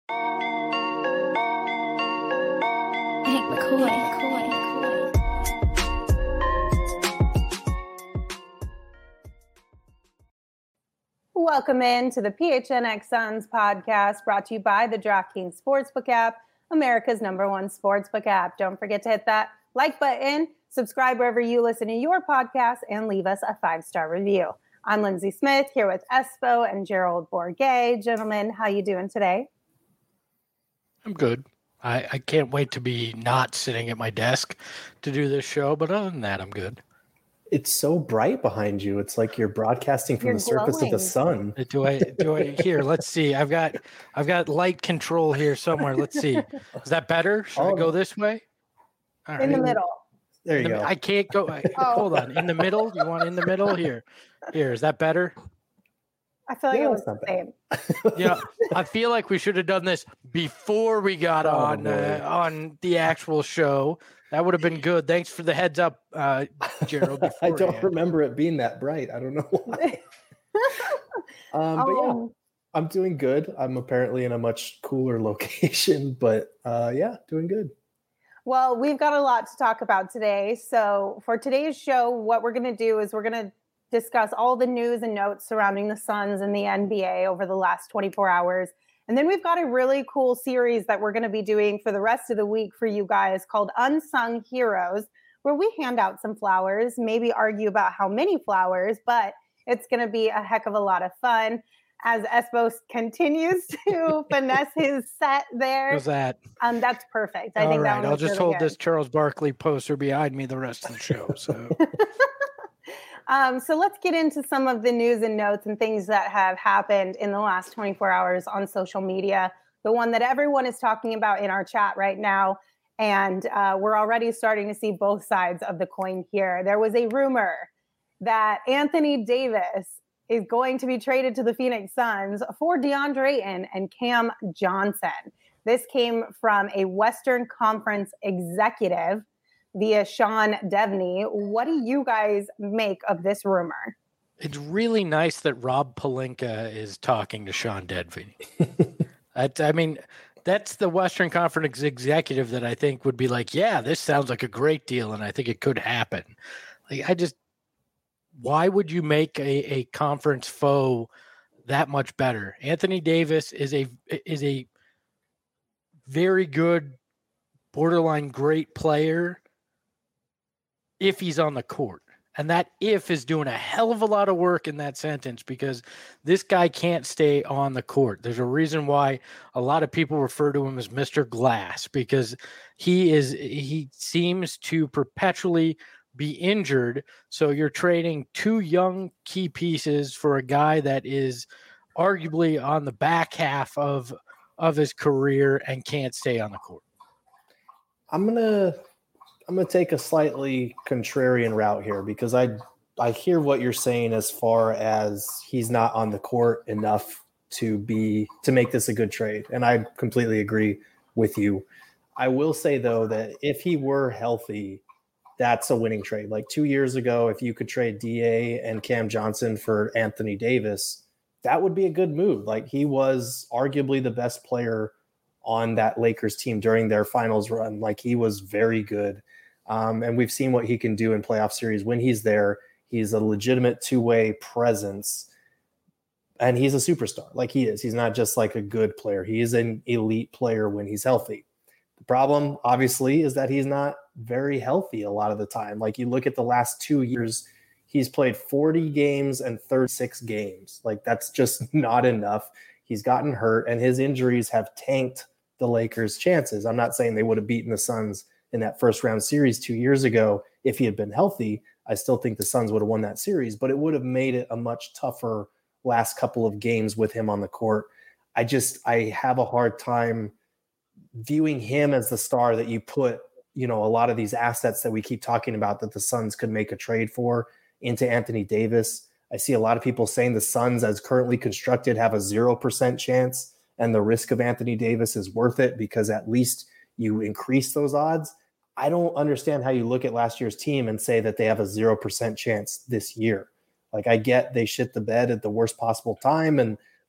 Nick McCoy. Welcome in to the PHNX Suns podcast, brought to you by the DraftKings Sportsbook app, America's #1 sportsbook app. Don't forget to hit that like button, subscribe wherever you listen to your podcast, and leave us a 5-star review. I'm Lindsay Smith here with Espo and Gerald Bourguet. Gentlemen, how you doing today? I'm good. I can't wait to be not sitting at my desk to do this show, but other than that, I'm good. It's so bright behind you. It's like you're broadcasting from the surface of the sun. Do I here? Let's see. I've got light control here somewhere. Let's see. Is that better? Should I go this way? All right. In the middle. There you go. I can't go. Hold on. In the middle? You want in the middle? Here. Is that better? I feel like it was the same. Yeah, I feel like we should have done this before we got on the actual show. That would have been good. Thanks for the heads up, Gerald. I don't remember it being that bright. I don't know why. But yeah, I'm doing good. I'm apparently in a much cooler location, but doing good. Well, we've got a lot to talk about today. So for today's show, what we're going to do is we're going to discuss all the news and notes surrounding the Suns and the NBA over the last 24 hours. And then we've got a really cool series that we're going to be doing for the rest of the week for you guys called Unsung Heroes, where we hand out some flowers, maybe argue about how many flowers, but it's going to be a heck of a lot of fun as Espo continues to finesse his set there. How's that? That's perfect. I think that I'll just really hold this Charles Barkley poster behind me the rest of the show. So. So let's get into some of the news and notes and things that have happened in the last 24 hours on social media. The one that everyone is talking about in our chat right now. And we're already starting to see both sides of the coin here. There was a rumor that Anthony Davis is going to be traded to the Phoenix Suns for DeAndre Ayton and Cam Johnson. This came from a Western Conference executive via Sean Devney. What do you guys make of this rumor? It's really nice that Rob Pelinka is talking to Sean Devney. That's the Western Conference executive that I think would be like, yeah, this sounds like a great deal, and I think it could happen. Why would you make a conference foe that much better? Anthony Davis is a very good, borderline great player if he's on the court. And that if is doing a hell of a lot of work in that sentence, because this guy can't stay on the court. There's a reason why a lot of people refer to him as Mr. Glass, because he seems to perpetually be injured. So you're trading two young key pieces for a guy that is arguably on the back half of his career and can't stay on the court. I'm gonna take a slightly contrarian route here, because I hear what you're saying as far as he's not on the court enough to make this a good trade, and I completely agree with you. I will say though that if he were healthy, that's a winning trade. Like 2 years ago, if you could trade DA and Cam Johnson for Anthony Davis, that would be a good move. Like, he was arguably the best player on that Lakers team during their finals run. Like, he was very good. And we've seen what he can do in playoff series. When he's there, he's a legitimate two-way presence, and he's a superstar. Like, he is. He's not just like a good player. He is an elite player when he's healthy. The problem, obviously, is that he's not very healthy a lot of the time. Like, you look at the last 2 years, he's played 40 games and 36 games. Like, that's just not enough. He's gotten hurt, and his injuries have tanked the Lakers' chances. I'm not saying they would have beaten the Suns in that first round series 2 years ago if he had been healthy. I still think the Suns would have won that series, but it would have made it a much tougher last couple of games with him on the court. I have a hard time viewing him as the star that you put, a lot of these assets that we keep talking about that the Suns could make a trade for into Anthony Davis. I see a lot of people saying the Suns, as currently constructed, have a 0% chance, and the risk of Anthony Davis is worth it because at least you increase those odds. I don't understand how you look at last year's team and say that they have a 0% chance this year. Like, I get they shit the bed at the worst possible time, and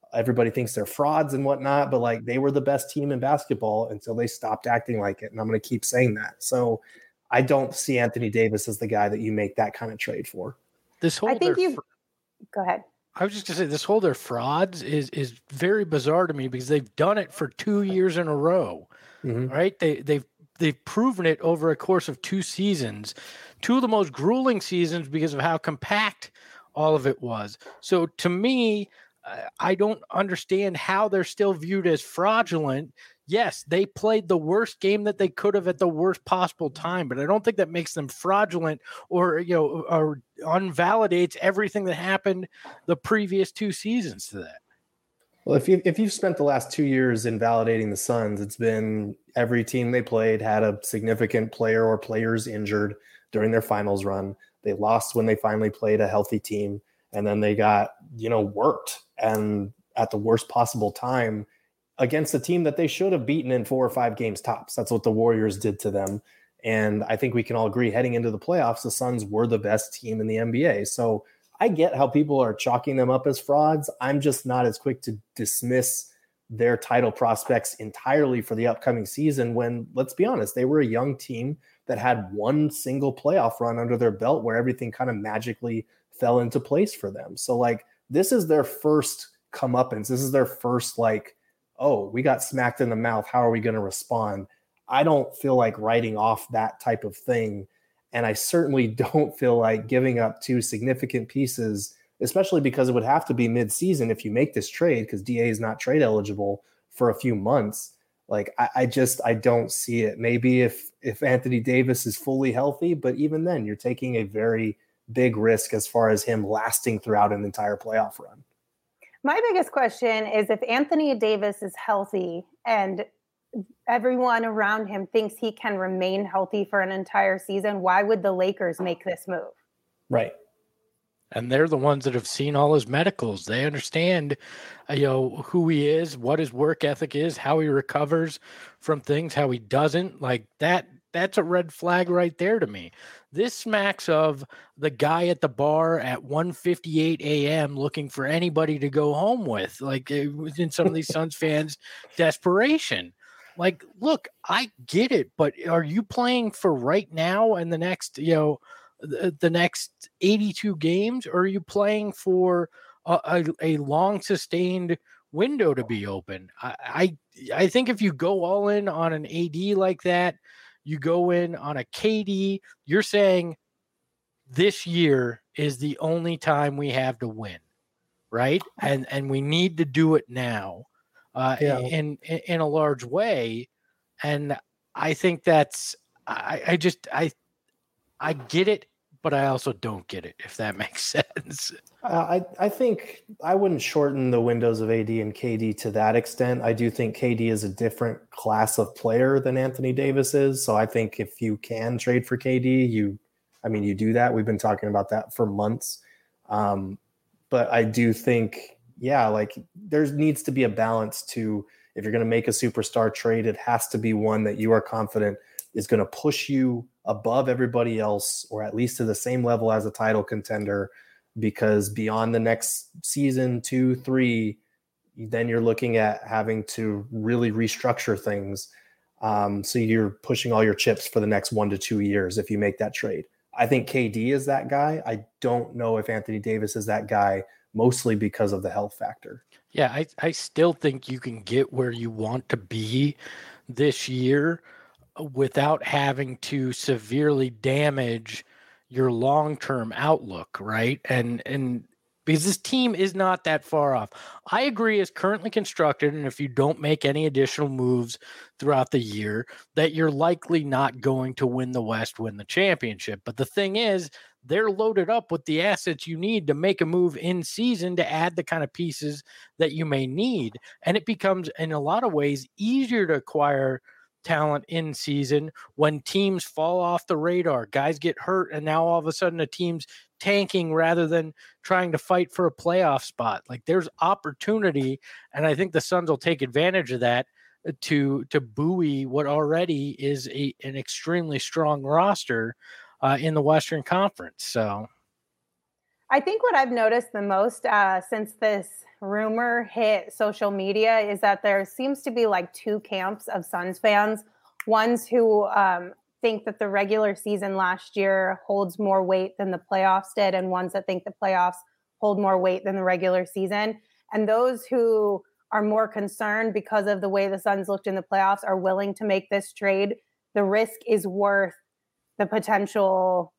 everybody thinks they're frauds and whatnot, but like they were the best team in basketball until they stopped acting like it. And I'm going to keep saying that. So I don't see Anthony Davis as the guy that you make that kind of trade for. This whole go ahead. I was just going to say, this whole they're frauds is very bizarre to me because they've done it for 2 years in a row, right? They've proven it over a course of 2 seasons, 2 of the most grueling seasons because of how compact all of it was. So to me, I don't understand how they're still viewed as fraudulent. Yes, they played the worst game that they could have at the worst possible time, but I don't think that makes them fraudulent or unvalidates everything that happened the previous 2 seasons to that. Well, if you've spent the last 2 years invalidating the Suns, it's been every team they played had a significant player or players injured during their finals run. They lost when they finally played a healthy team, and then they got, worked and at the worst possible time against a team that they should have beaten in 4 or 5 games tops. That's what the Warriors did to them. And I think we can all agree heading into the playoffs, the Suns were the best team in the NBA. So I get how people are chalking them up as frauds. I'm just not as quick to dismiss their title prospects entirely for the upcoming season when, let's be honest, they were a young team that had one single playoff run under their belt where everything kind of magically fell into place for them. So like, this is their first comeuppance. This is their first oh, we got smacked in the mouth. How are we going to respond? I don't feel like writing off that type of thing. And I certainly don't feel like giving up 2 significant pieces, especially because it would have to be mid-season if you make this trade, because DA is not trade eligible for a few months. Like, I don't see it. Maybe if Anthony Davis is fully healthy, but even then you're taking a very big risk as far as him lasting throughout an entire playoff run. My biggest question is if Anthony Davis is healthy and everyone around him thinks he can remain healthy for an entire season, why would the Lakers make this move? Right. And they're the ones that have seen all his medicals. They understand, who he is, what his work ethic is, how he recovers from things, how he doesn't. Like that's a red flag right there to me. This smacks of the guy at the bar at 1:58 a.m. looking for anybody to go home with, like in some of these Suns fans' desperation. Like, look, I get it, but are you playing for right now and the next, the next 82 games, or are you playing for a long sustained window to be open? I think if you go all in on an AD like that, you go in on a KD, you're saying this year is the only time we have to win, right? And we need to do it now in a large way. And I think that's I get it, but I also don't get it, if that makes sense. I think I wouldn't shorten the windows of AD and KD to that extent. I do think KD is a different class of player than Anthony Davis is. So I think if you can trade for KD, you do that. We've been talking about that for months. But I do think, there needs to be a balance to, if you're going to make a superstar trade, it has to be one that you are confident is going to push you above everybody else, or at least to the same level as a title contender, because beyond the next season, 2, 3, then you're looking at having to really restructure things. So you're pushing all your chips for the next 1 to 2 years if you make that trade. I think KD is that guy. I don't know if Anthony Davis is that guy, mostly because of the health factor. Yeah, I still think you can get where you want to be this year without having to severely damage your long-term outlook, right? And because this team is not that far off. I agree, as currently constructed, and if you don't make any additional moves throughout the year, that you're likely not going to win the West, win the championship. But the thing is, they're loaded up with the assets you need to make a move in season to add the kind of pieces that you may need. And it becomes, in a lot of ways, easier to acquire talent in season when teams fall off the radar, guys get hurt, and now all of a sudden a team's tanking rather than trying to fight for a playoff spot. Like, there's opportunity, and I think the Suns will take advantage of that to buoy what already is an extremely strong roster in the Western Conference. So I think what I've noticed the most since this rumor hit social media is that there seems to be like two camps of Suns fans. Ones who think that the regular season last year holds more weight than the playoffs did, and ones that think the playoffs hold more weight than the regular season. And those who are more concerned because of the way the Suns looked in the playoffs are willing to make this trade. The risk is worth the potential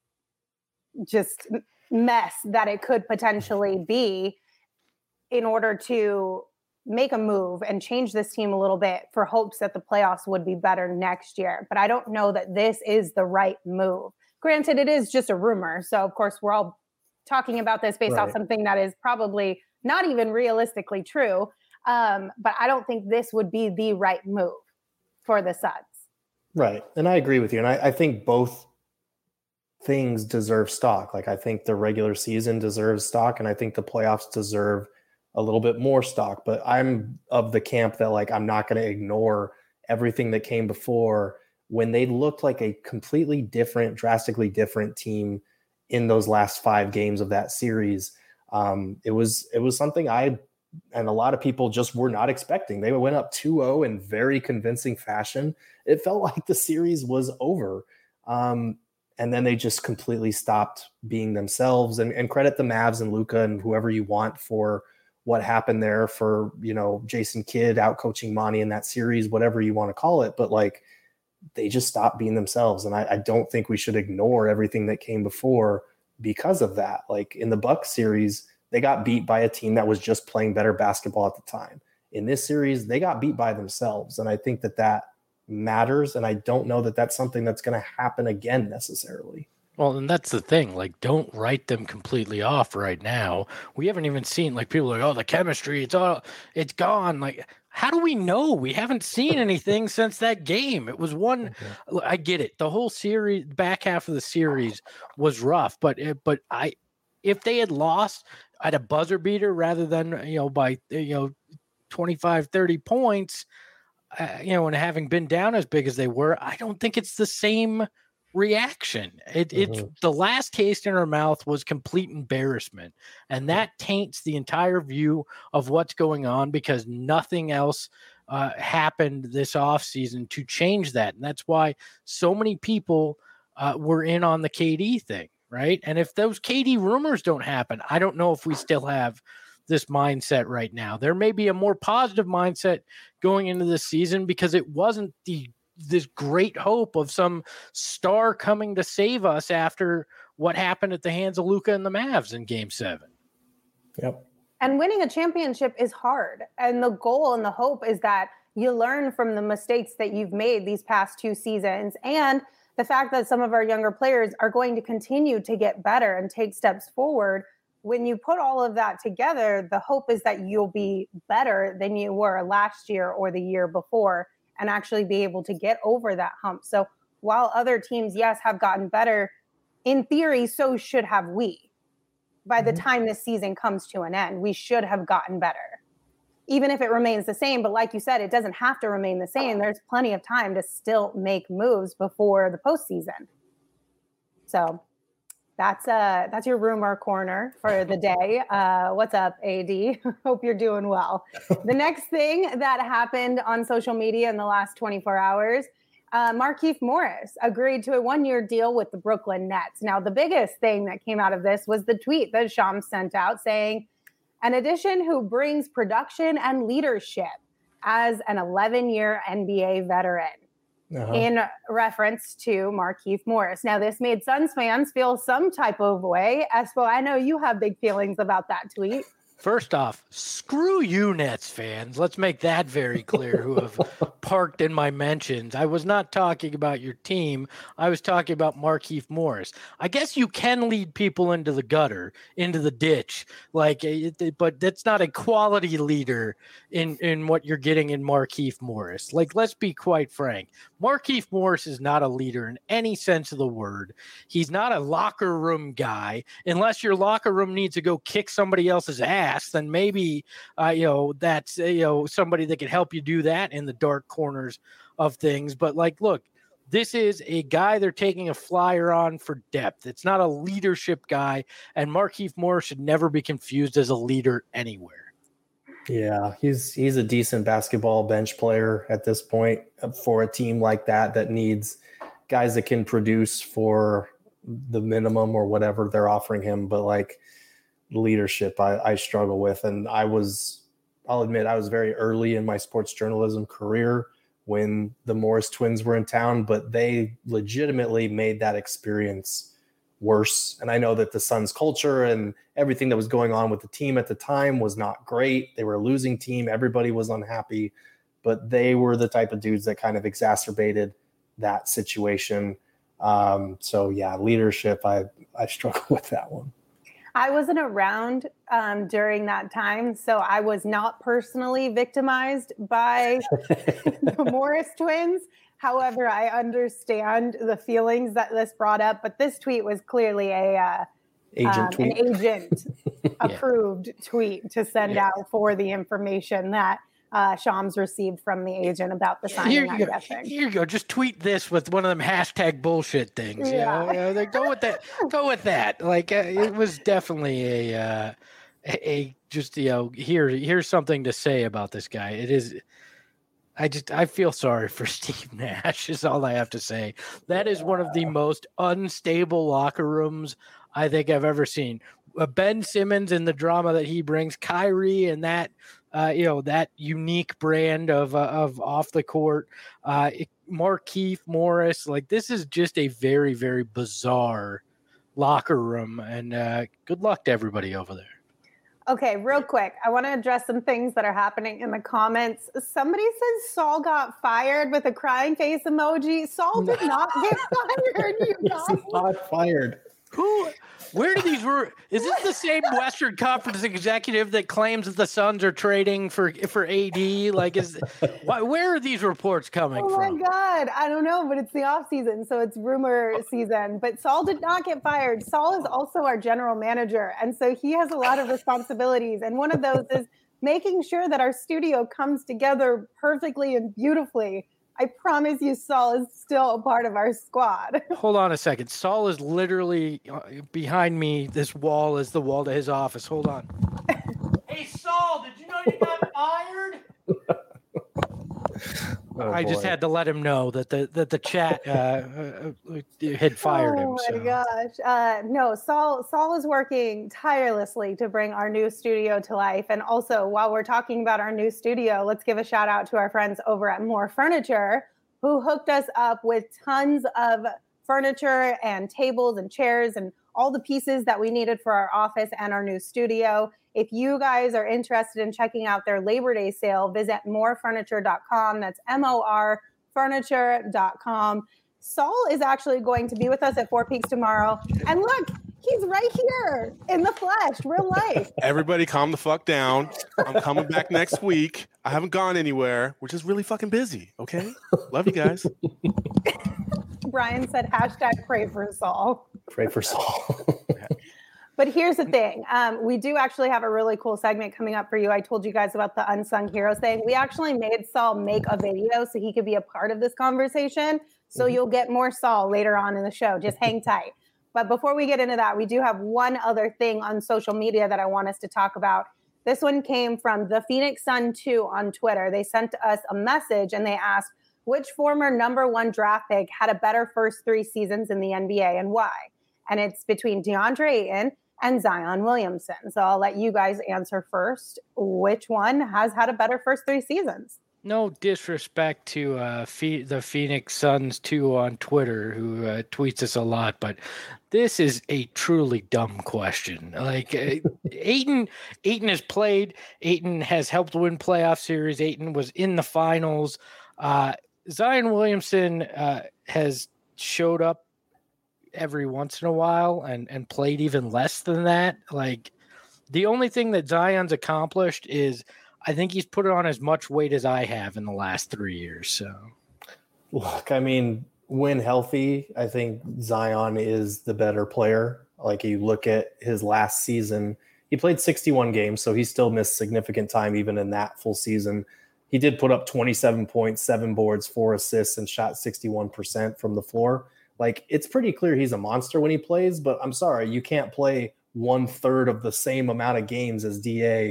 just mess that it could potentially be in order to make a move and change this team a little bit for hopes that the playoffs would be better next year. But I don't know that this is the right move. Granted, it is just a rumor. So of course we're all talking about this based off something that is probably not even realistically true. But I don't think this would be the right move for the Suns. Right. And I agree with you. And I think both things deserve stock. Like I think the regular season deserves stock, and I think the playoffs deserve a little bit more stock. But I'm of the camp that like I'm not going to ignore everything that came before when they looked like a completely different, drastically different team in those last 5 games of that series. It was something I and a lot of people just were not expecting. They went up 2-0 in very convincing fashion. It felt like the series was over. And then they just completely stopped being themselves, and credit the Mavs and Luka and whoever you want for what happened there, for, you know, Jason Kidd out coaching Monty in that series, whatever you want to call it. But like, they just stopped being themselves. And I don't think we should ignore everything that came before because of that. Like in the Bucks series, they got beat by a team that was just playing better basketball at the time. In this series, they got beat by themselves. And I think that matters. And I don't know that that's something that's going to happen again necessarily. Well, and that's the thing. Like, don't write them completely off right now. We haven't even seen, like, people are like, oh, the chemistry, it's gone. Like, how do we know? We haven't seen anything since that game. It was one. Okay. I get it. The whole series, back half of the series was rough, but if they had lost at a buzzer beater rather than, by 25, 30 points, and having been down as big as they were, I don't think it's the same reaction. It's the last taste in our mouth was complete embarrassment, and that taints the entire view of what's going on, because nothing else happened this offseason to change that. And that's why so many people were in on the KD thing, right? And if those KD rumors don't happen, I don't know if we still have this mindset right now. There may be a more positive mindset going into this season, because it wasn't this great hope of some star coming to save us after what happened at the hands of Luka and the Mavs in Game 7. Yep. And winning a championship is hard. And the goal and the hope is that you learn from the mistakes that you've made these past 2 seasons. And the fact that some of our younger players are going to continue to get better and take steps forward. When you put all of that together, the hope is that you'll be better than you were last year or the year before, and actually be able to get over that hump. So while other teams, yes, have gotten better, in theory, so should have we. By the time this season comes to an end, we should have gotten better, even if it remains the same. But like you said, it doesn't have to remain the same. There's plenty of time to still make moves before the postseason. So that's your rumor corner for the day. What's up, AD? Hope you're doing well. The next thing that happened on social media in the last 24 hours, Markieff Morris agreed to a 1-year deal with the Brooklyn Nets. Now, the biggest thing that came out of this was the tweet that Shams sent out saying, an addition who brings production and leadership as an 11-year NBA veteran. In reference to Markieff Morris. Now, this made Suns fans feel some type of way. Espo, I know you have big feelings about that tweet. First off, screw you, Nets fans. Let's make that very clear, who have parked in my mentions. I was not talking about your team. I was talking about Markieff Morris. I guess you can lead people into the gutter, into the ditch, but that's not a quality leader in what you're getting in Markieff Morris. Like, let's be quite frank. Markieff Morris is not a leader in any sense of the word. He's not a locker room guy. Unless your locker room needs to go kick somebody else's ass, then maybe that's somebody that can help you do that in the dark corners of things. But look, this is a guy they're taking a flyer on for depth. It's not a leadership guy, and Markieff Morris should never be confused as a leader anywhere. Yeah, he's a decent basketball bench player at this point for a team like that needs guys that can produce for the minimum or whatever they're offering him. But like leadership, I struggle with. And I'll admit I was very early in my sports journalism career when the Morris twins were in town, but they legitimately made that experience worse. And I know that the Suns culture and everything that was going on with the team at the time was not great. They were a losing team. Everybody was unhappy, but they were the type of dudes that kind of exacerbated that situation. So yeah, leadership, I struggle with that one. I wasn't around during that time, so I was not personally victimized by the Morris twins. However, I understand the feelings that this brought up, but this tweet was clearly an agent approved tweet to send out for the information that Shams received from the agent about the signing. I'm guessing. Here you go. Just tweet this with one of them hashtag bullshit things. Yeah. Like, go with that. Go with that. Like it was definitely a just here's something to say about this guy. It is. I feel sorry for Steve Nash is all I have to say. That is one of the most unstable locker rooms I think I've ever seen. Ben Simmons and the drama that he brings, Kyrie and that, that unique brand of off the court, Markieff Morris, like this is just a very, very bizarre locker room, and good luck to everybody over there. Okay, real quick. I want to address some things that are happening in the comments. Somebody says Saul got fired with a crying face emoji. Saul did not get fired, you guys. He's not fired. Where do these is this the same Western Conference executive that claims that the Suns are trading for AD? Like, where are these reports coming from? Oh my God. I don't know, but it's the off season, so it's rumor season. But Saul did not get fired. Saul is also our general manager, and so he has a lot of responsibilities. And one of those is making sure that our studio comes together perfectly and beautifully. I promise you, Saul is still a part of our squad. Hold on a second. Saul is literally behind me. This wall is the wall to his office. Hold on. Hey, Saul, did you know you got fired? I just had to let him know that the chat had fired him. Oh my gosh! No, Saul is working tirelessly to bring our new studio to life. And also, while we're talking about our new studio, let's give a shout out to our friends over at More Furniture, who hooked us up with tons of furniture and tables and chairs and all the pieces that we needed for our office and our new studio. If you guys are interested in checking out their Labor Day sale, visit morefurniture.com. That's MOR furniture.com. Saul is actually going to be with us at Four Peaks tomorrow. And look, he's right here in the flesh, real life. Everybody calm the fuck down. I'm coming back next week. I haven't gone anywhere. We're just really fucking busy, okay? Love you guys. Brian said, hashtag pray for Saul. Pray for Saul. But here's the thing. We do actually have a really cool segment coming up for you. I told you guys about the unsung heroes thing. We actually made Saul make a video so he could be a part of this conversation. So you'll get more Saul later on in the show. Just hang tight. But before we get into that, we do have one other thing on social media that I want us to talk about. This one came from the Phoenix Sun 2 on Twitter. They sent us a message and they asked, which former number 1 draft pick had a better first 3 seasons in the NBA and why? And it's between DeAndre Ayton and Zion Williamson. So I'll let you guys answer first. Which one has had a better first 3 seasons? No disrespect to the Phoenix Suns 2 on Twitter, who tweets us a lot, but this is a truly dumb question. Like Ayton has played. Ayton has helped win playoff series. Ayton was in the finals. Zion Williamson has showed up every once in a while and played even less than that. Like the only thing that Zion's accomplished is I think he's put on as much weight as I have in the last 3 years. So look, I mean, when healthy, I think Zion is the better player. Like you look at his last season, he played 61 games, so he still missed significant time even in that full season. He did put up 27 points, 7 boards, 4 assists, and shot 61% from the floor. Like, it's pretty clear he's a monster when he plays, but I'm sorry, you can't play 1/3 of the same amount of games as DA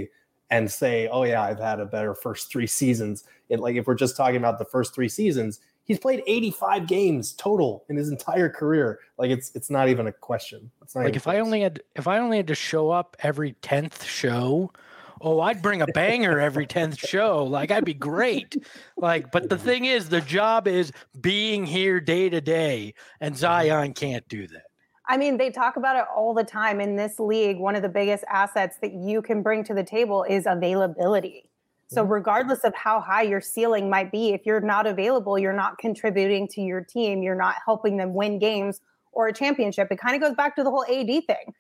and say, oh yeah, I've had a better first 3 seasons. Like if we're just talking about the first 3 seasons, he's played 85 games total in his entire career. Like it's not even a question. It's not like if I only had to show up every 10th show, I'd bring a banger every 10th show. Like I'd be great. Like, but the thing is, the job is being here day to day, and Zion can't do that. I mean, they talk about it all the time in this league. One of the biggest assets that you can bring to the table is availability. So regardless of how high your ceiling might be, if you're not available, you're not contributing to your team, you're not helping them win games or a championship. It kind of goes back to the whole AD thing.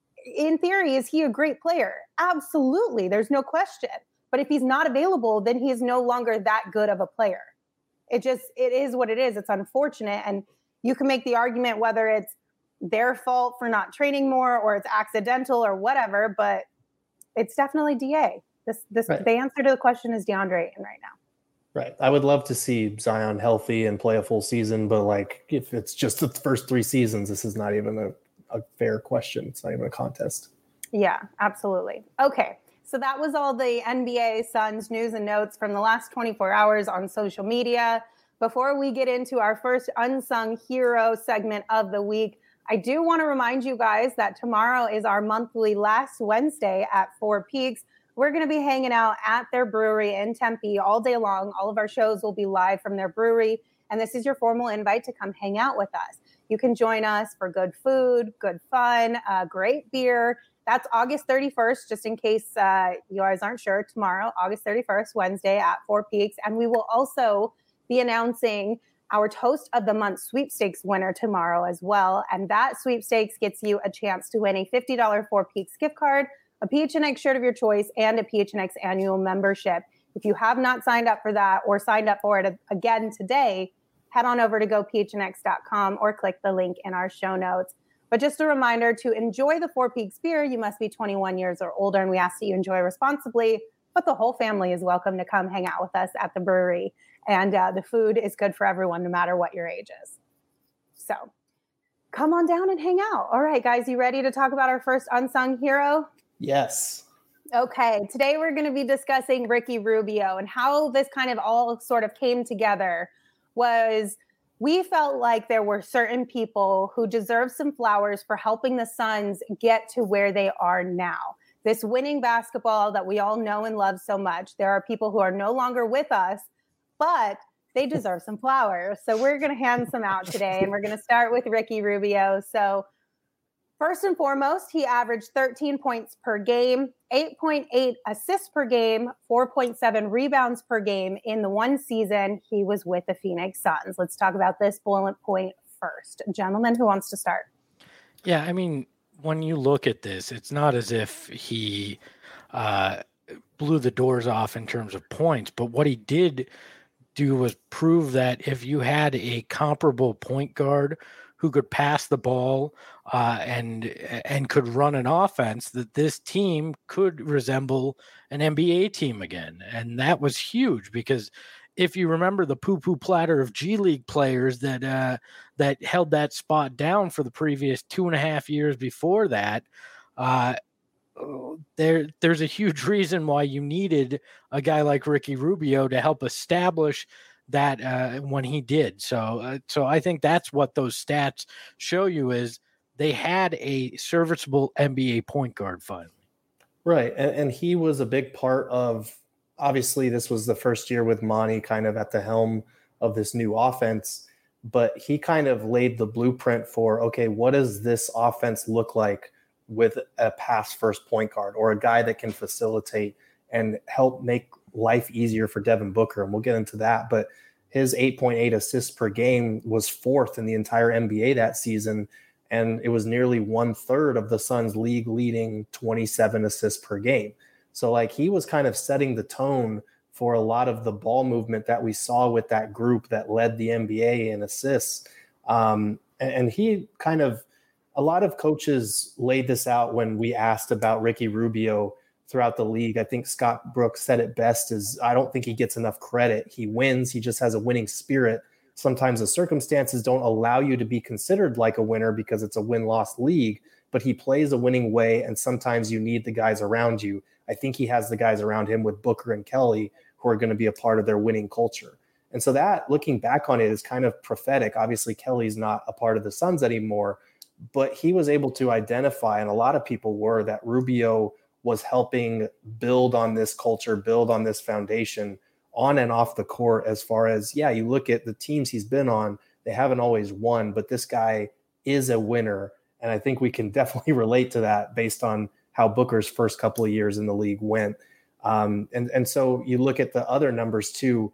In theory, is he a great player? Absolutely. There's no question. But if he's not available, then he is no longer that good of a player. It is what it is. It's unfortunate. And you can make the argument whether it's their fault for not training more or it's accidental or whatever, but it's definitely DA. Right. The answer to the question is DeAndre Ayton right now. Right. I would love to see Zion healthy and play a full season, but like if it's just the first 3 seasons, this is not even a fair question. It's not even a contest. Yeah, absolutely. Okay. So that was all the NBA Suns news and notes from the last 24 hours on social media. Before we get into our first unsung hero segment of the week, I do want to remind you guys that tomorrow is our monthly Last Wednesday at Four Peaks. We're going to be hanging out at their brewery in Tempe all day long. All of our shows will be live from their brewery. And this is your formal invite to come hang out with us. You can join us for good food, good fun, great beer. That's August 31st, just in case you guys aren't sure. Tomorrow, August 31st, Wednesday at Four Peaks. And we will also be announcing our Toast of the Month sweepstakes winner tomorrow as well. And that sweepstakes gets you a chance to win a $50 Four Peaks gift card, a PHNX shirt of your choice, and a PHNX annual membership. If you have not signed up for that or signed up for it again today, head on over to gophnx.com or click the link in our show notes. But just a reminder, to enjoy the Four Peaks beer, you must be 21 years or older, and we ask that you enjoy responsibly. But the whole family is welcome to come hang out with us at the brewery. And the food is good for everyone, no matter what your age is. So come on down and hang out. All right, guys, you ready to talk about our first unsung hero? Yes. Okay, today we're going to be discussing Ricky Rubio, and how this kind of all sort of came together was we felt like there were certain people who deserve some flowers for helping the Suns get to where they are now. This winning basketball that we all know and love so much. There are people who are no longer with us, but they deserve some flowers. So we're going to hand some out today, and we're going to start with Ricky Rubio. So first and foremost, he averaged 13 points per game, 8.8 assists per game, 4.7 rebounds per game in the one season he was with the Phoenix Suns. Let's talk about this bullet point first. Gentlemen, who wants to start? Yeah, I mean, when you look at this, it's not as if he blew the doors off in terms of points, but what he did do was prove that if you had a comparable point guard who could pass the ball and could run an offense, that this team could resemble an NBA team again. And that was huge, because if you remember the poo-poo platter of G League players that held that spot down for the previous 2.5 years before that, there's a huge reason why you needed a guy like Ricky Rubio to help establish that when he did. So I think that's what those stats show you, is they had a serviceable NBA point guard finally. Right. And he was a big part of, obviously this was the first year with Monty kind of at the helm of this new offense, but he kind of laid the blueprint for, okay, what does this offense look like with a pass first point guard, or a guy that can facilitate and help make life easier for Devin Booker. And we'll get into that, but his 8.8 assists per game was 4th in the entire NBA that season. And it was nearly 1/3 of the Suns' league leading 27 assists per game. So like he was kind of setting the tone for a lot of the ball movement that we saw with that group that led the NBA in assists. And he kind of, a lot of coaches laid this out when we asked about Ricky Rubio throughout the league. I think Scott Brooks said it best, is I don't think he gets enough credit. He wins. He just has a winning spirit. Sometimes the circumstances don't allow you to be considered like a winner because it's a win-loss league, but he plays a winning way, and sometimes you need the guys around you. I think he has the guys around him with Booker and Kelly who are going to be a part of their winning culture. And so that, looking back on it, is kind of prophetic. Obviously, Kelly's not a part of the Suns anymore, but he was able to identify, and a lot of people were, that Rubio was helping build on this culture, build on this foundation on and off the court. As far as, you look at the teams he's been on, they haven't always won, but this guy is a winner. And I think we can definitely relate to that based on how Booker's first couple of years in the league went. And so you look at the other numbers too.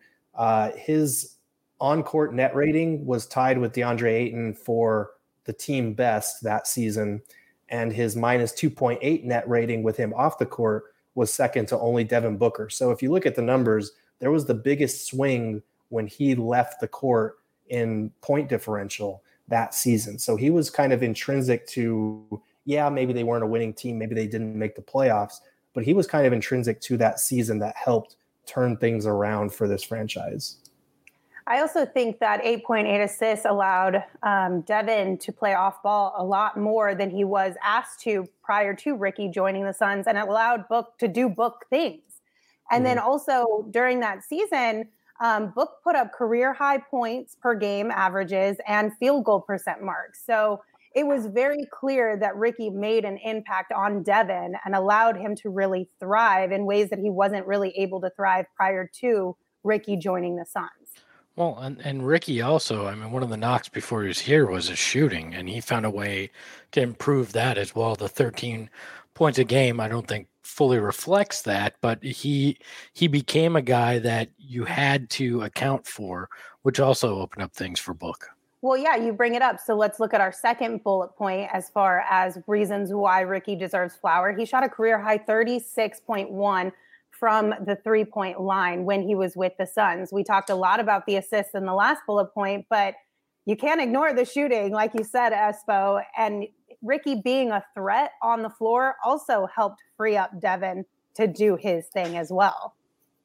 His on-court net rating was tied with DeAndre Ayton for the team best that season, and his minus 2.8 net rating with him off the court was second to only Devin Booker. So if you look at the numbers, there was the biggest swing when he left the court in point differential that season. So he was kind of intrinsic to, maybe they weren't a winning team, maybe they didn't make the playoffs, but he was kind of intrinsic to that season that helped turn things around for this franchise. I also think that 8.8 assists allowed Devin to play off ball a lot more than he was asked to prior to Ricky joining the Suns, and it allowed Book to do Book things. And then also during that season, Book put up career high points per game averages and field goal percent marks. So it was very clear that Ricky made an impact on Devin and allowed him to really thrive in ways that he wasn't really able to thrive prior to Ricky joining the Suns. Well, and Ricky also, I mean, one of the knocks before he was here was his shooting, and he found a way to improve that as well. The 13 points a game, I don't think fully reflects that, but he became a guy that you had to account for, which also opened up things for Book. Well, yeah, you bring it up. So let's look at our second bullet point as far as reasons why Ricky deserves flower. He shot a career high 36.1 from the 3-point line when he was with the Suns. We talked a lot about the assists in the last bullet point, but you can't ignore the shooting, like you said, Espo. And Ricky being a threat on the floor also helped free up Devin to do his thing as well.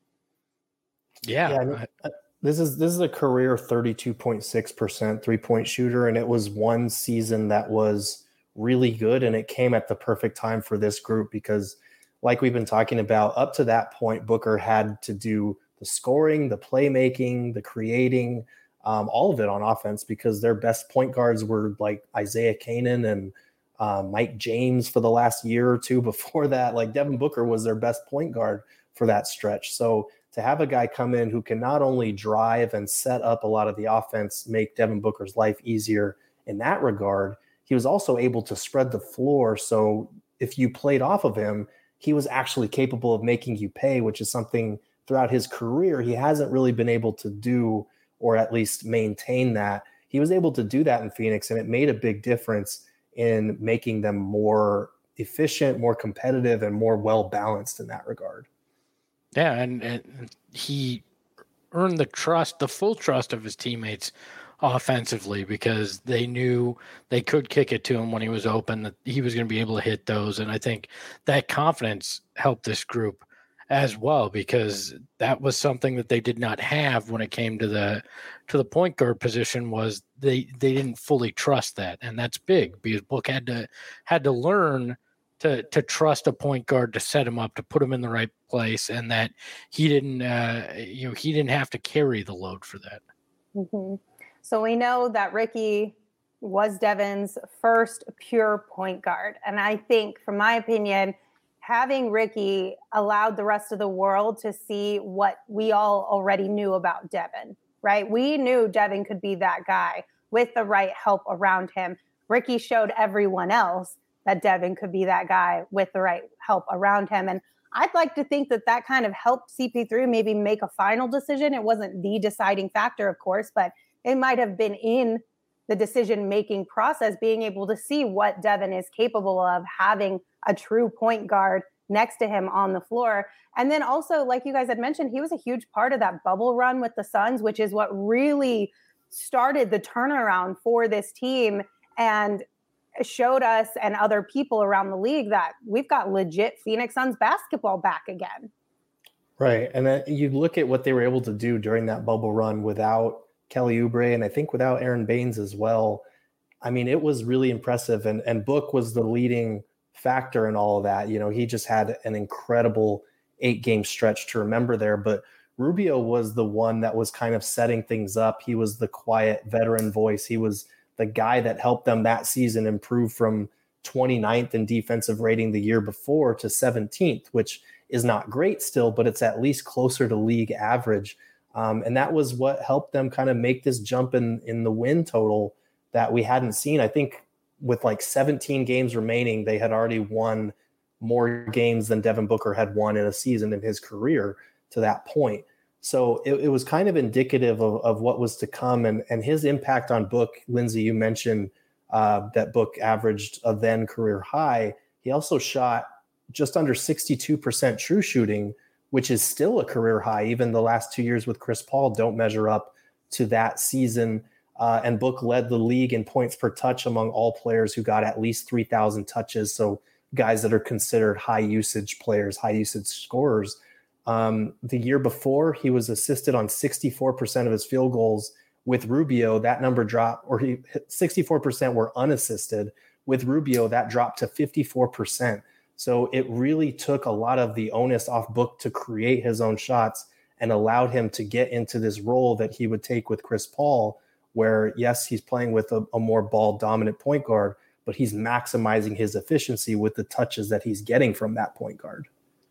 Yeah. This is a career 32.6% 3-point shooter, and it was one season that was really good, and it came at the perfect time for this group because, like we've been talking about, up to that point, Booker had to do the scoring, the playmaking, the creating, all of it on offense because their best point guards were like Isaiah Canaan and Mike James for the last year or two before that. Like Devin Booker was their best point guard for that stretch. So to have a guy come in who can not only drive and set up a lot of the offense, make Devin Booker's life easier in that regard, he was also able to spread the floor. So if you played off of him, he was actually capable of making you pay, which is something throughout his career he hasn't really been able to do, or at least maintain that. He was able to do that in Phoenix, and it made a big difference in making them more efficient, more competitive, and more well-balanced in that regard. Yeah, and he earned the full trust of his teammates offensively because they knew they could kick it to him when he was open, that he was going to be able to hit those. And I think that confidence helped this group as well because that was something that they did not have when it came to the point guard position. Was they didn't fully trust that, and that's big because Book had to learn to trust a point guard to set him up, to put him in the right place, and that he didn't have to carry the load for that. Mm-hmm. So we know that Ricky was Devin's first pure point guard. And I think, from my opinion, having Ricky allowed the rest of the world to see what we all already knew about Devin, right? We knew Devin could be that guy with the right help around him. Ricky showed everyone else that Devin could be that guy with the right help around him. And I'd like to think that kind of helped CP3 maybe make a final decision. It wasn't the deciding factor, of course, but it might have been in the decision-making process, being able to see what Devin is capable of, having a true point guard next to him on the floor. And then also, like you guys had mentioned, he was a huge part of that bubble run with the Suns, which is what really started the turnaround for this team and showed us and other people around the league that we've got legit Phoenix Suns basketball back again. Right. And then you look at what they were able to do during that bubble run without Kelly Oubre, and I think without Aaron Baines as well. I mean, it was really impressive. And Book was the leading factor in all of that. He just had an incredible 8-game stretch to remember there, but Rubio was the one that was kind of setting things up. He was the quiet veteran voice. He was the guy that helped them that season improve from 29th in defensive rating the year before to 17th, which is not great still, but it's at least closer to league average. And that was what helped them kind of make this jump in the win total that we hadn't seen. I think with like 17 games remaining, they had already won more games than Devin Booker had won in a season in his career to that point. So it was kind of indicative of what was to come, and his impact on Book. Lindsay, you mentioned that Book averaged a then career high. He also shot just under 62% true shooting, which is still a career high. Even the last 2 years with Chris Paul don't measure up to that season. And Book led the league in points per touch among all players who got at least 3,000 touches. So guys that are considered high usage players, high usage scorers. The year before, he was assisted on 64% of his field goals. With Rubio, that number dropped, 64% were unassisted. With Rubio, that dropped to 54%. So it really took a lot of the onus off Book to create his own shots and allowed him to get into this role that he would take with Chris Paul, where, yes, he's playing with a more ball-dominant point guard, but he's maximizing his efficiency with the touches that he's getting from that point guard.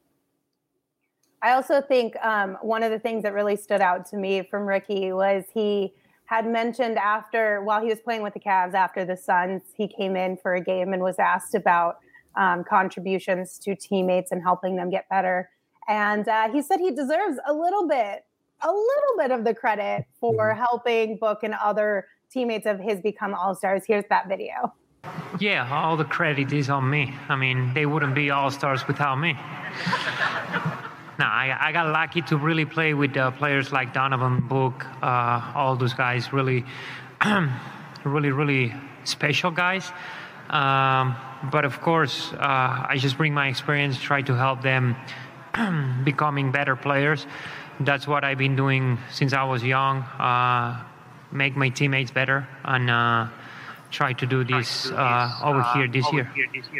I also think one of the things that really stood out to me from Ricky was he had mentioned while he was playing with the Cavs after the Suns, he came in for a game and was asked about contributions to teammates and helping them get better. And he said he deserves a little bit of the credit for helping Book and other teammates of his become all-stars. Here's that video. Yeah, all the credit is on me. I mean, they wouldn't be all-stars without me. No, I got lucky to really play with players like Donovan, Book, all those guys, really, really special guys. But of course, I just bring my experience, try to help them becoming better players. That's what I've been doing since I was young, make my teammates better, and try to do this over here this year.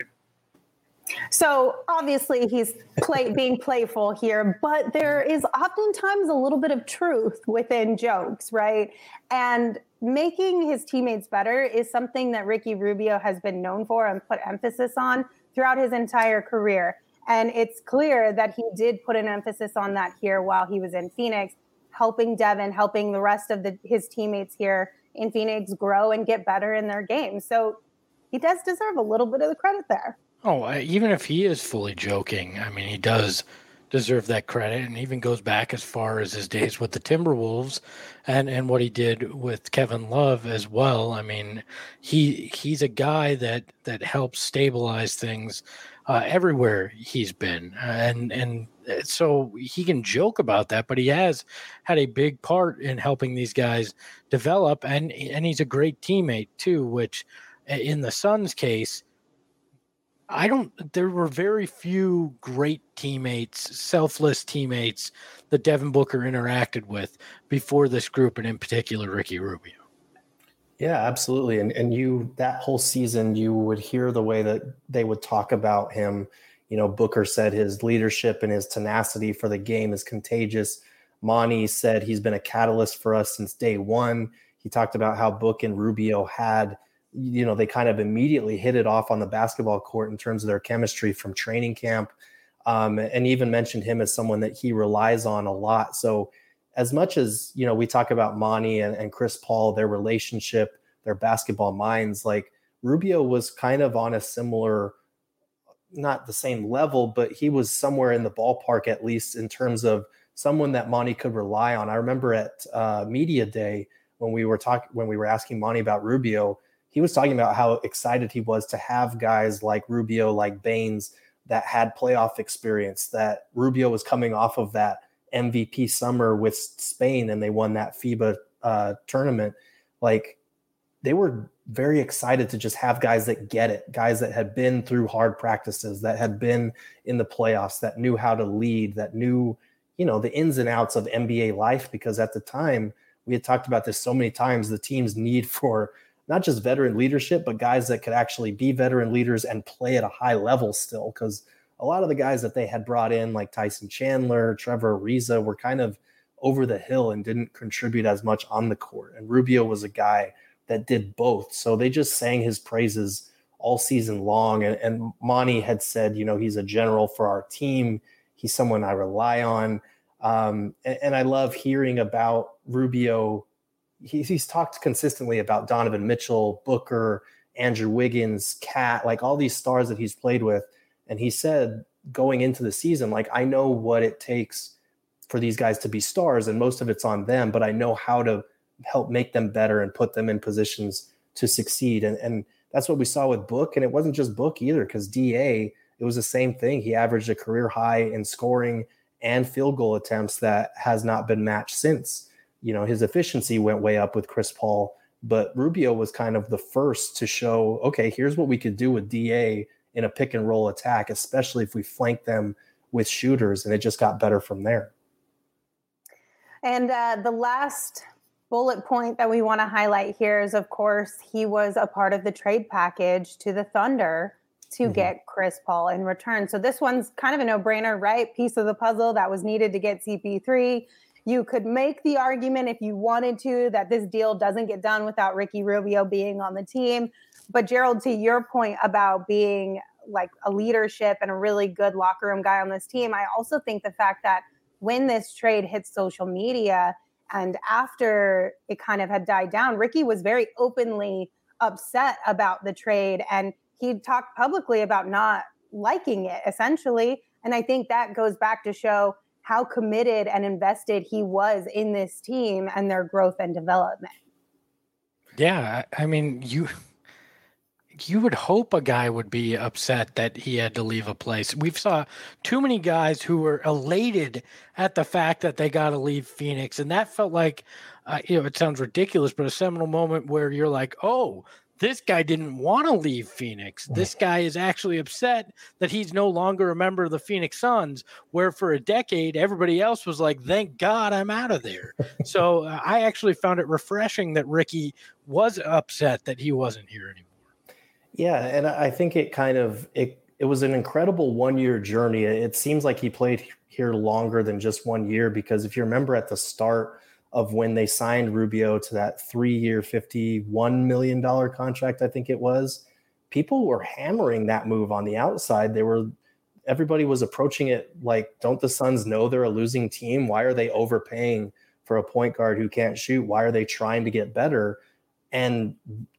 So obviously he's being playful here, but there is oftentimes a little bit of truth within jokes, right? And making his teammates better is something that Ricky Rubio has been known for and put emphasis on throughout his entire career. And it's clear that he did put an emphasis on that here while he was in Phoenix, helping Devin, helping the rest of his teammates here in Phoenix grow and get better in their game. So he does deserve a little bit of the credit there. Oh, even if he is fully joking, I mean, he does deserve that credit, and even goes back as far as his days with the Timberwolves and what he did with Kevin Love as well. I mean, he's a guy that helps stabilize things everywhere he's been, and so he can joke about that, but he has had a big part in helping these guys develop, and he's a great teammate too, which in the Suns case, there were very few great teammates, selfless teammates that Devin Booker interacted with before this group, and in particular, Ricky Rubio. Yeah, absolutely. And that whole season, you would hear the way that they would talk about him. Booker said his leadership and his tenacity for the game is contagious. Monty said he's been a catalyst for us since day one. He talked about how Book and Rubio had, they kind of immediately hit it off on the basketball court in terms of their chemistry from training camp, and even mentioned him as someone that he relies on a lot. So as much as, we talk about Monty and Chris Paul, their relationship, their basketball minds, like Rubio was kind of on a similar, not the same level, but he was somewhere in the ballpark, at least in terms of someone that Monty could rely on. I remember at media day when we were asking Monty about Rubio, he was talking about how excited he was to have guys like Rubio, like Baines, that had playoff experience, that Rubio was coming off of that MVP summer with Spain and they won that FIBA tournament. Like, they were very excited to just have guys that get it, guys that had been through hard practices, that had been in the playoffs, that knew how to lead, that knew, the ins and outs of NBA life. Because at the time, we had talked about this so many times, the team's need for not just veteran leadership, but guys that could actually be veteran leaders and play at a high level still. Because a lot of the guys that they had brought in, like Tyson Chandler, Trevor Ariza, were kind of over the hill and didn't contribute as much on the court. And Rubio was a guy that did both. So they just sang his praises all season long. And Monty had said, he's a general for our team. He's someone I rely on. And I love hearing about Rubio. He's talked consistently about Donovan Mitchell, Booker, Andrew Wiggins, Cat, like all these stars that he's played with. And he said going into the season, like, I know what it takes for these guys to be stars, and most of it's on them, but I know how to help make them better and put them in positions to succeed. And that's what we saw with Book. And it wasn't just Book either, because DA, it was the same thing. He averaged a career high in scoring and field goal attempts that has not been matched since. His efficiency went way up with Chris Paul, but Rubio was kind of the first to show, okay, here's what we could do with DA in a pick and roll attack, especially if we flank them with shooters. And it just got better from there. And the last bullet point that we want to highlight here is, of course, he was a part of the trade package to the Thunder to get Chris Paul in return. So this one's kind of a no-brainer, right? Piece of the puzzle that was needed to get CP3. You could make the argument if you wanted to that this deal doesn't get done without Ricky Rubio being on the team. But Gerald, to your point about being like a leadership and a really good locker room guy on this team, I also think the fact that when this trade hit social media and after it kind of had died down, Ricky was very openly upset about the trade. And he talked publicly about not liking it, essentially. And I think that goes back to show how committed and invested he was in this team and their growth and development. Yeah, I mean, you would hope a guy would be upset that he had to leave a place. We've saw too many guys who were elated at the fact that they got to leave Phoenix. And that felt like, it sounds ridiculous, but a seminal moment where you're like, oh, this guy didn't want to leave Phoenix. This guy is actually upset that he's no longer a member of the Phoenix Suns, where for a decade, everybody else was like, thank God I'm out of there. So I actually found it refreshing that Ricky was upset that he wasn't here anymore. Yeah, and I think it was an incredible 1-year journey. It seems like he played here longer than just 1 year, because if you remember at the start of when they signed Rubio to that 3-year, $51 million contract, I think it was, people were hammering that move on the outside. Everybody was approaching it like, don't the Suns know they're a losing team? Why are they overpaying for a point guard who can't shoot? Why are they trying to get better? And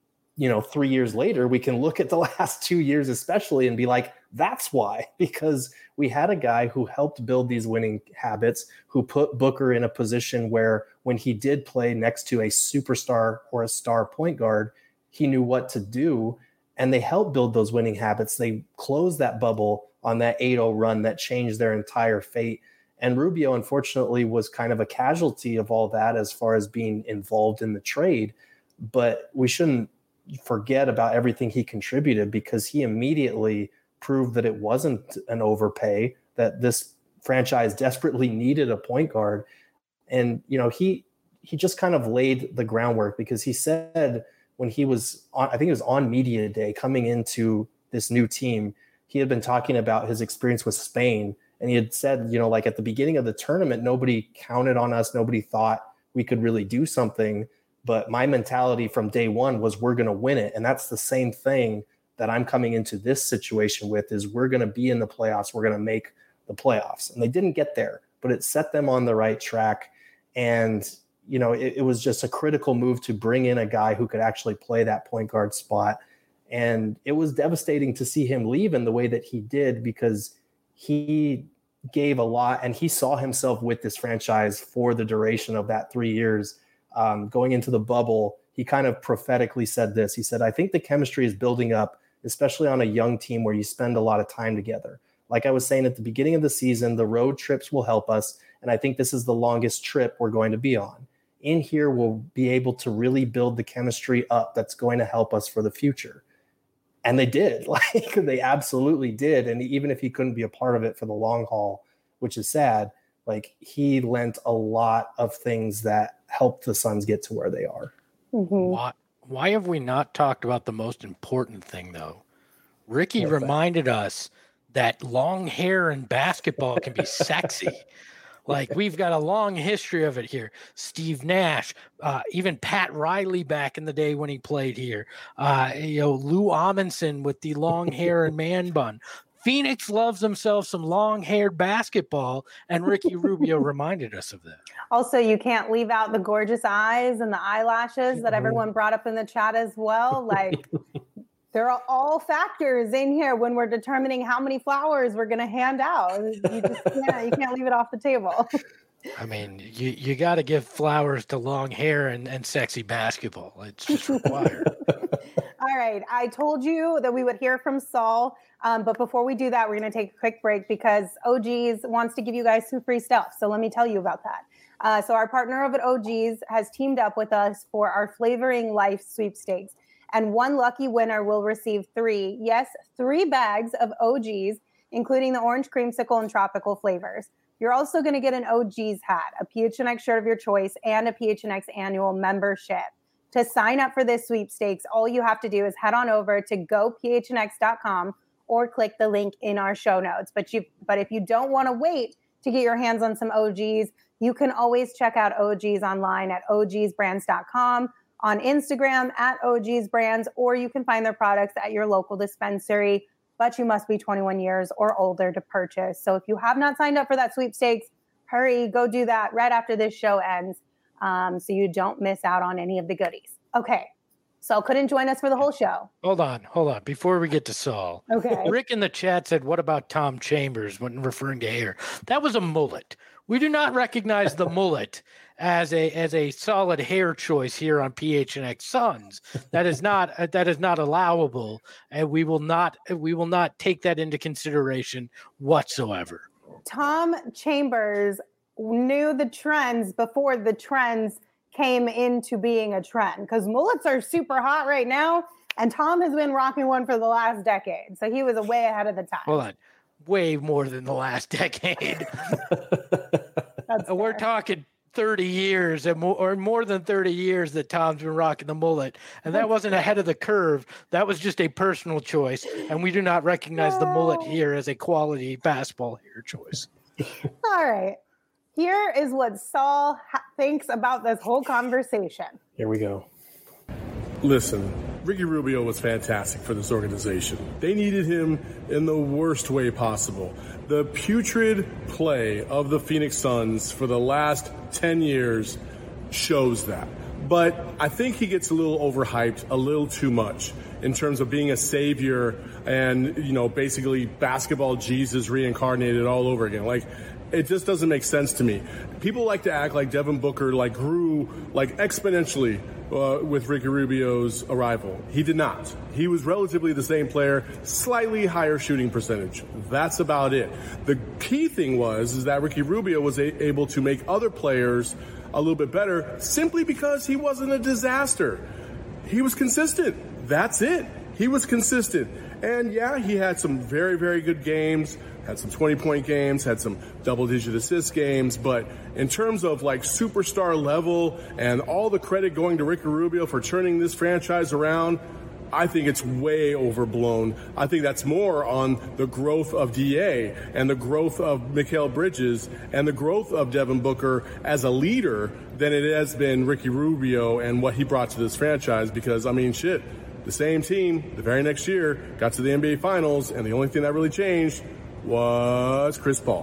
3 years later, we can look at the last 2 years especially and be like, that's why, because we had a guy who helped build these winning habits, who put Booker in a position where when he did play next to a superstar or a star point guard, he knew what to do, and they helped build those winning habits. They closed that bubble on that 8-0 run that changed their entire fate. And Rubio, unfortunately, was kind of a casualty of all that as far as being involved in the trade. But we shouldn't forget about everything he contributed, because he immediately proved that it wasn't an overpay, that this franchise desperately needed a point guard. And, he just kind of laid the groundwork, because he said when he was on, I think it was on media day coming into this new team, he had been talking about his experience with Spain. And he had said, like at the beginning of the tournament, nobody counted on us. Nobody thought we could really do something. But my mentality from day one was, we're going to win it. And that's the same thing that I'm coming into this situation with, is we're going to be in the playoffs. We're going to make the playoffs. And they didn't get there, but it set them on the right track. And, it was just a critical move to bring in a guy who could actually play that point guard spot. And it was devastating to see him leave in the way that he did, because he gave a lot and he saw himself with this franchise for the duration of that 3 years. Going into the bubble, he kind of prophetically said this. He said, I think the chemistry is building up, especially on a young team where you spend a lot of time together. Like I was saying at the beginning of the season, the road trips will help us. And I think this is the longest trip we're going to be on. In here, we'll be able to really build the chemistry up that's going to help us for the future. And they did. Like, they absolutely did. And even if he couldn't be a part of it for the long haul, which is sad, like, he lent a lot of things that helped the Suns get to where they are. Mm-hmm. Why have we not talked about the most important thing, though? Ricky reminded us that long hair in basketball can be sexy. Like, we've got a long history of it here. Steve Nash, even Pat Riley back in the day when he played here. Lou Amundsen with the long hair and man bun. Phoenix loves themselves some long-haired basketball, and Ricky Rubio reminded us of that. Also, you can't leave out the gorgeous eyes and the eyelashes that everyone brought up in the chat as well. Like, there are all factors in here when we're determining how many flowers we're going to hand out. You can't leave it off the table. I mean, you got to give flowers to long hair and sexy basketball. It's just required. All right. I told you that we would hear from Saul. But before we do that, we're going to take a quick break because OGs wants to give you guys some free stuff. So let me tell you about that. So our partner over at OGs has teamed up with us for our Flavoring Life sweepstakes. And one lucky winner will receive three bags of OGs, including the orange creamsicle and tropical flavors. You're also going to get an OGs hat, a PHNX shirt of your choice, and a PHNX annual membership. To sign up for this sweepstakes, all you have to do is head on over to gophnx.com or click the link in our show notes. But if you don't want to wait to get your hands on some OGs, you can always check out OGs online at ogsbrands.com, on Instagram at ogsbrands, or you can find their products at your local dispensary, but you must be 21 years or older to purchase. So if you have not signed up for that sweepstakes, hurry, go do that right after this show ends, so you don't miss out on any of the goodies. Okay. Saul couldn't join us for the whole show. Hold on. Before we get to Saul. Okay. Rick in the chat said, what about Tom Chambers when referring to hair? That was a mullet. We do not recognize the mullet as a solid hair choice here on PHNX Suns. That is not allowable, and we will not take that into consideration whatsoever. Tom Chambers knew the trends before the trends came into being a trend, because mullets are super hot right now, and Tom has been rocking one for the last decade, so he was way ahead of the time. Hold on, way more than the last decade. We're talking 30 years or more than 30 years that Tom's been rocking the mullet, and that wasn't ahead of the curve. That was just a personal choice, and we do not recognize the mullet here as a quality basketball hair choice. All right. Here is what Saul thinks about this whole conversation. Here we go. Listen, Ricky Rubio was fantastic for this organization. They needed him in the worst way possible. The putrid play of the Phoenix Suns for the last 10 years shows that. But I think he gets a little overhyped, a little too much in terms of being a savior and, basically basketball Jesus reincarnated all over again. It just doesn't make sense to me. People like to act like Devin Booker grew exponentially with Ricky Rubio's arrival. He did not. He was relatively the same player, slightly higher shooting percentage. That's about it. The key thing is that Ricky Rubio was able to make other players a little bit better simply because he wasn't a disaster. He was consistent. That's it. He was consistent. And yeah, he had some very, very good games, had some 20-point games, had some double-digit assist games. But in terms of superstar level and all the credit going to Ricky Rubio for turning this franchise around, I think it's way overblown. I think that's more on the growth of DA and the growth of Mikal Bridges and the growth of Devin Booker as a leader than it has been Ricky Rubio and what he brought to this franchise. Because, the same team the very next year got to the NBA Finals, and the only thing that really changed was Chris Paul.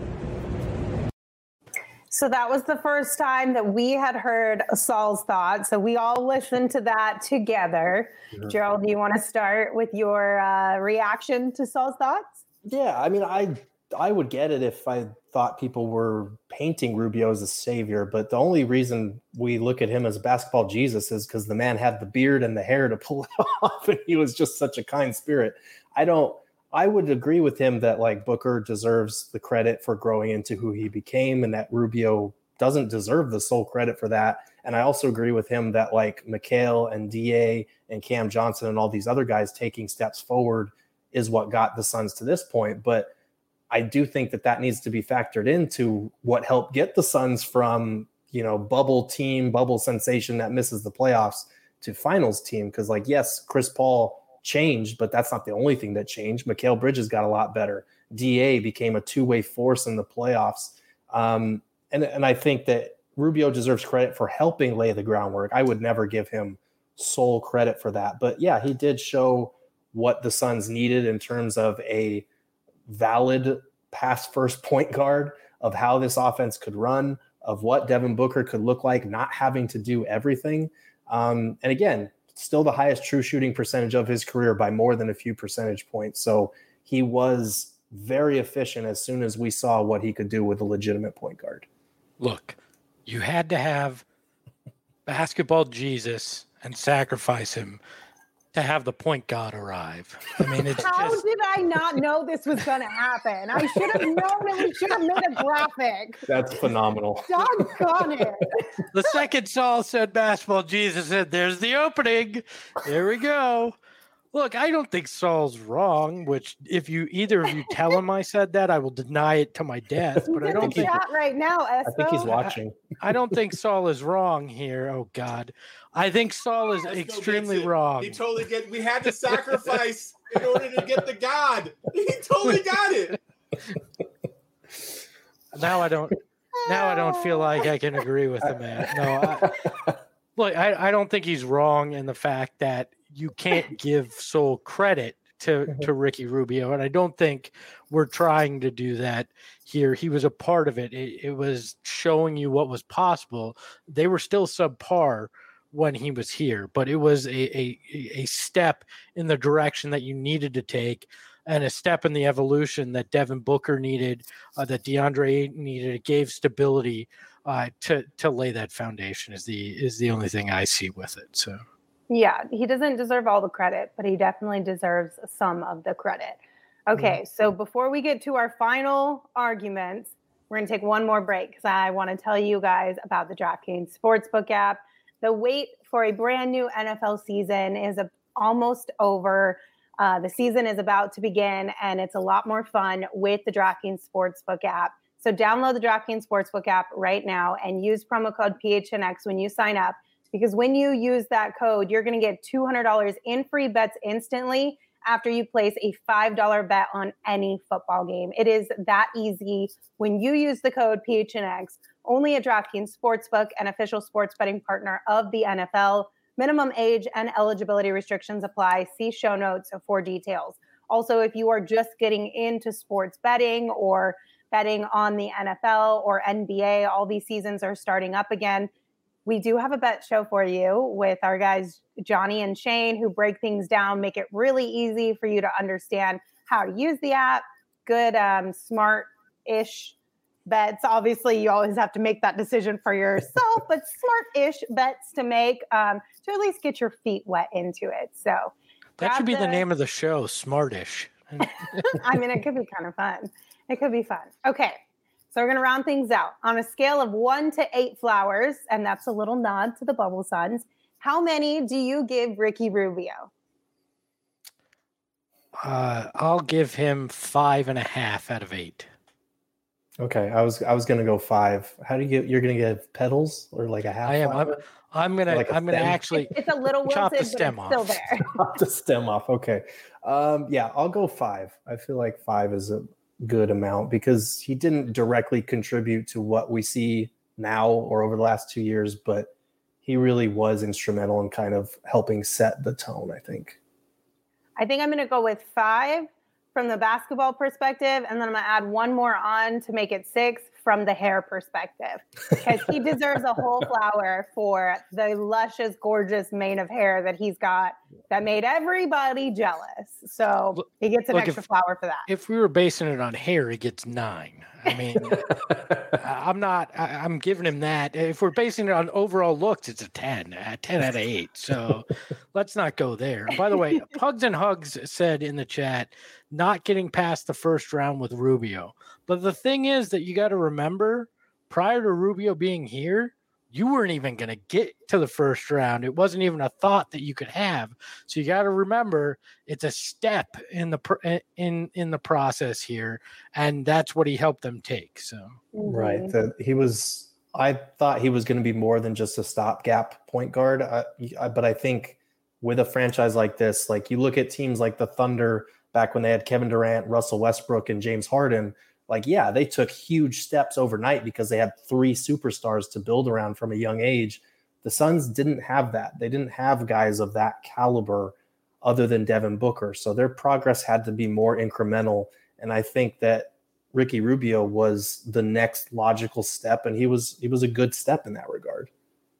So that was the first time that we had heard Saul's thoughts. So we all listened to that together. Yeah. Gerald, do you want to start with your reaction to Saul's thoughts? Yeah, I would get it if I thought people were painting Rubio as a savior, but the only reason we look at him as basketball Jesus is because the man had the beard and the hair to pull it off, and he was just such a kind spirit. I would agree with him that Booker deserves the credit for growing into who he became, and that Rubio doesn't deserve the sole credit for that. And I also agree with him that Mikal and DA and Cam Johnson and all these other guys taking steps forward is what got the Suns to this point. But I do think that needs to be factored into what helped get the Suns from, bubble team, bubble sensation that misses the playoffs to finals team. Because, like, yes, Chris Paul changed, but that's not the only thing that changed. Mikal Bridges got a lot better. DA became a two-way force in the playoffs. And I think that Rubio deserves credit for helping lay the groundwork. I would never give him sole credit for that. But yeah, he did show what the Suns needed in terms of a valid pass first point guard, of how this offense could run, of what Devin Booker could look like, not having to do everything. And again, still the highest true shooting percentage of his career by more than a few percentage points. So he was very efficient as soon as we saw what he could do with a legitimate point guard. Look, you had to have basketball Jesus and sacrifice him to have the point guard arrive. I mean, it's how just... did I not know this was going to happen? I should have known it. We should have made a graphic. That's phenomenal. Doggone it. The second Saul said basketball Jesus said, there's the opening. There we go. Look, I don't think Saul's wrong, which if either of you tell him I said that, I will deny it to my death. But I don't think chat right now, Espo. I think he's watching. I don't think Saul is wrong here. Oh God. I think Saul is extremely wrong. He totally we had to sacrifice in order to get the God. He totally got it. Now I don't feel like I can agree with the man. No, I don't think he's wrong in the fact that you can't give sole credit to Ricky Rubio. And I don't think we're trying to do that here. He was a part of it. It was showing you what was possible. They were still subpar when he was here, but it was a step in the direction that you needed to take, and a step in the evolution that Devin Booker needed, that DeAndre needed. It gave stability to lay that foundation is the only thing I see with it. So. Yeah, he doesn't deserve all the credit, but he definitely deserves some of the credit. Okay, so before we get to our final arguments, we're going to take one more break because I want to tell you guys about the DraftKings Sportsbook app. The wait for a brand new NFL season is almost over. The season is about to begin, and it's a lot more fun with the DraftKings Sportsbook app. So download the DraftKings Sportsbook app right now and use promo code PHNX when you sign up. Because when you use that code, you're going to get $200 in free bets instantly after you place a $5 bet on any football game. It is that easy when you use the code PHNX, only at DraftKings Sportsbook, an official sports betting partner of the NFL. Minimum age and eligibility restrictions apply. See show notes for details. Also, if you are just getting into sports betting or betting on the NFL or NBA, all these seasons are starting up again. We do have a bet show for you with our guys, Johnny and Shane, who break things down, make it really easy for you to understand how to use the app. Good, smart-ish bets. Obviously, you always have to make that decision for yourself, but smart-ish bets to make to at least get your feet wet into it. So that should be the name of the show, Smartish. I mean, it could be kind of fun. It could be fun. Okay. So we're going to round things out. On a scale of 1 to 8 flowers, and that's a little nod to the Bubble Suns, how many do you give Ricky Rubio? I'll give him 5.5 out of 8. Okay, I was going to go 5. How do you get? You're going to give petals or like a half? I am. I'm gonna actually. It's a little chop wilted, the stem but off. It's still there. Chop the stem off. Okay. Yeah, I'll go 5. I feel like 5 is a good amount because he didn't directly contribute to what we see now or over the last 2 years, but he really was instrumental in kind of helping set the tone, I think. I think I'm going to go with 5 from the basketball perspective, and then I'm going to add one more on to make it 6 from the hair perspective, because he deserves a whole flower for the luscious, gorgeous mane of hair that he's got that made everybody jealous. So he gets an extra flower for that. If we were basing it on hair, he gets 9. I mean, I'm giving him that. If we're basing it on overall looks, it's a 10 out of 8. So let's not go there. By the way, Pugs and Hugs said in the chat, not getting past the first round with Rubio. But the thing is that you got to remember, prior to Rubio being here, you weren't even going to get to the first round. It wasn't even a thought that you could have. So you got to remember, it's a step in the process here, and that's what he helped them take. So right, he was I thought he was going to be more than just a stopgap point guard. But I think with a franchise like this, like you look at teams like the Thunder back when they had Kevin Durant, Russell Westbrook, and James Harden, like, yeah, they took huge steps overnight because they had 3 superstars to build around from a young age. The Suns didn't have that. They didn't have guys of that caliber other than Devin Booker. So their progress had to be more incremental. And I think that Ricky Rubio was the next logical step, and he was a good step in that regard.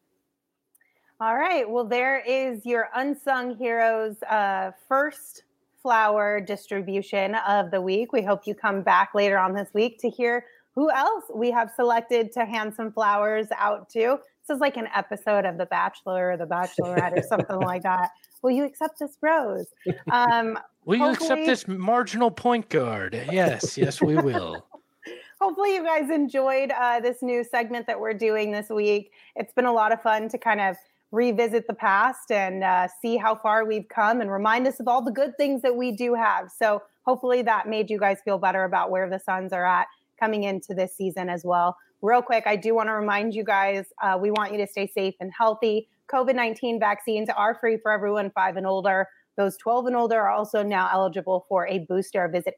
All right. Well, there is your unsung heroes first flower distribution of the week. We hope you come back later on this week to hear who else we have selected to hand some flowers out to. This is like an episode of The Bachelor or The Bachelorette or something like that. Will you accept this rose? Will you accept this marginal point guard? Yes, we will. Hopefully you guys enjoyed this new segment that we're doing this week. It's been a lot of fun to kind of revisit the past and see how far we've come and remind us of all the good things that we do have. So hopefully that made you guys feel better about where the Suns are at coming into this season as well. Real quick, I do want to remind you guys, we want you to stay safe and healthy. COVID-19 vaccines are free for everyone 5 and older. Those 12 and older are also now eligible for a booster. Visit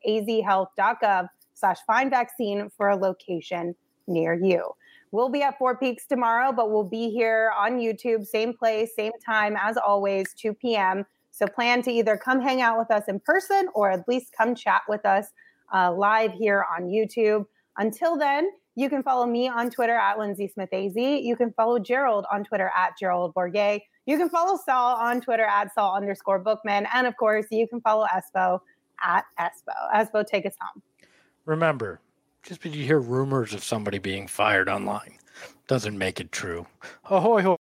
azhealth.gov/findvaccine for a location near you. We'll be at Four Peaks tomorrow, but we'll be here on YouTube, same place, same time as always, 2 p.m. So plan to either come hang out with us in person or at least come chat with us live here on YouTube. Until then, you can follow me on Twitter at Lindsay Smith AZ. You can follow Gerald on Twitter at Gerald Bourget. You can follow Saul on Twitter at Saul_Bookman. And of course, you can follow Espo at Espo. Espo, take us home. Remember, just because you hear rumors of somebody being fired online doesn't make it true. Ahoy, hoy.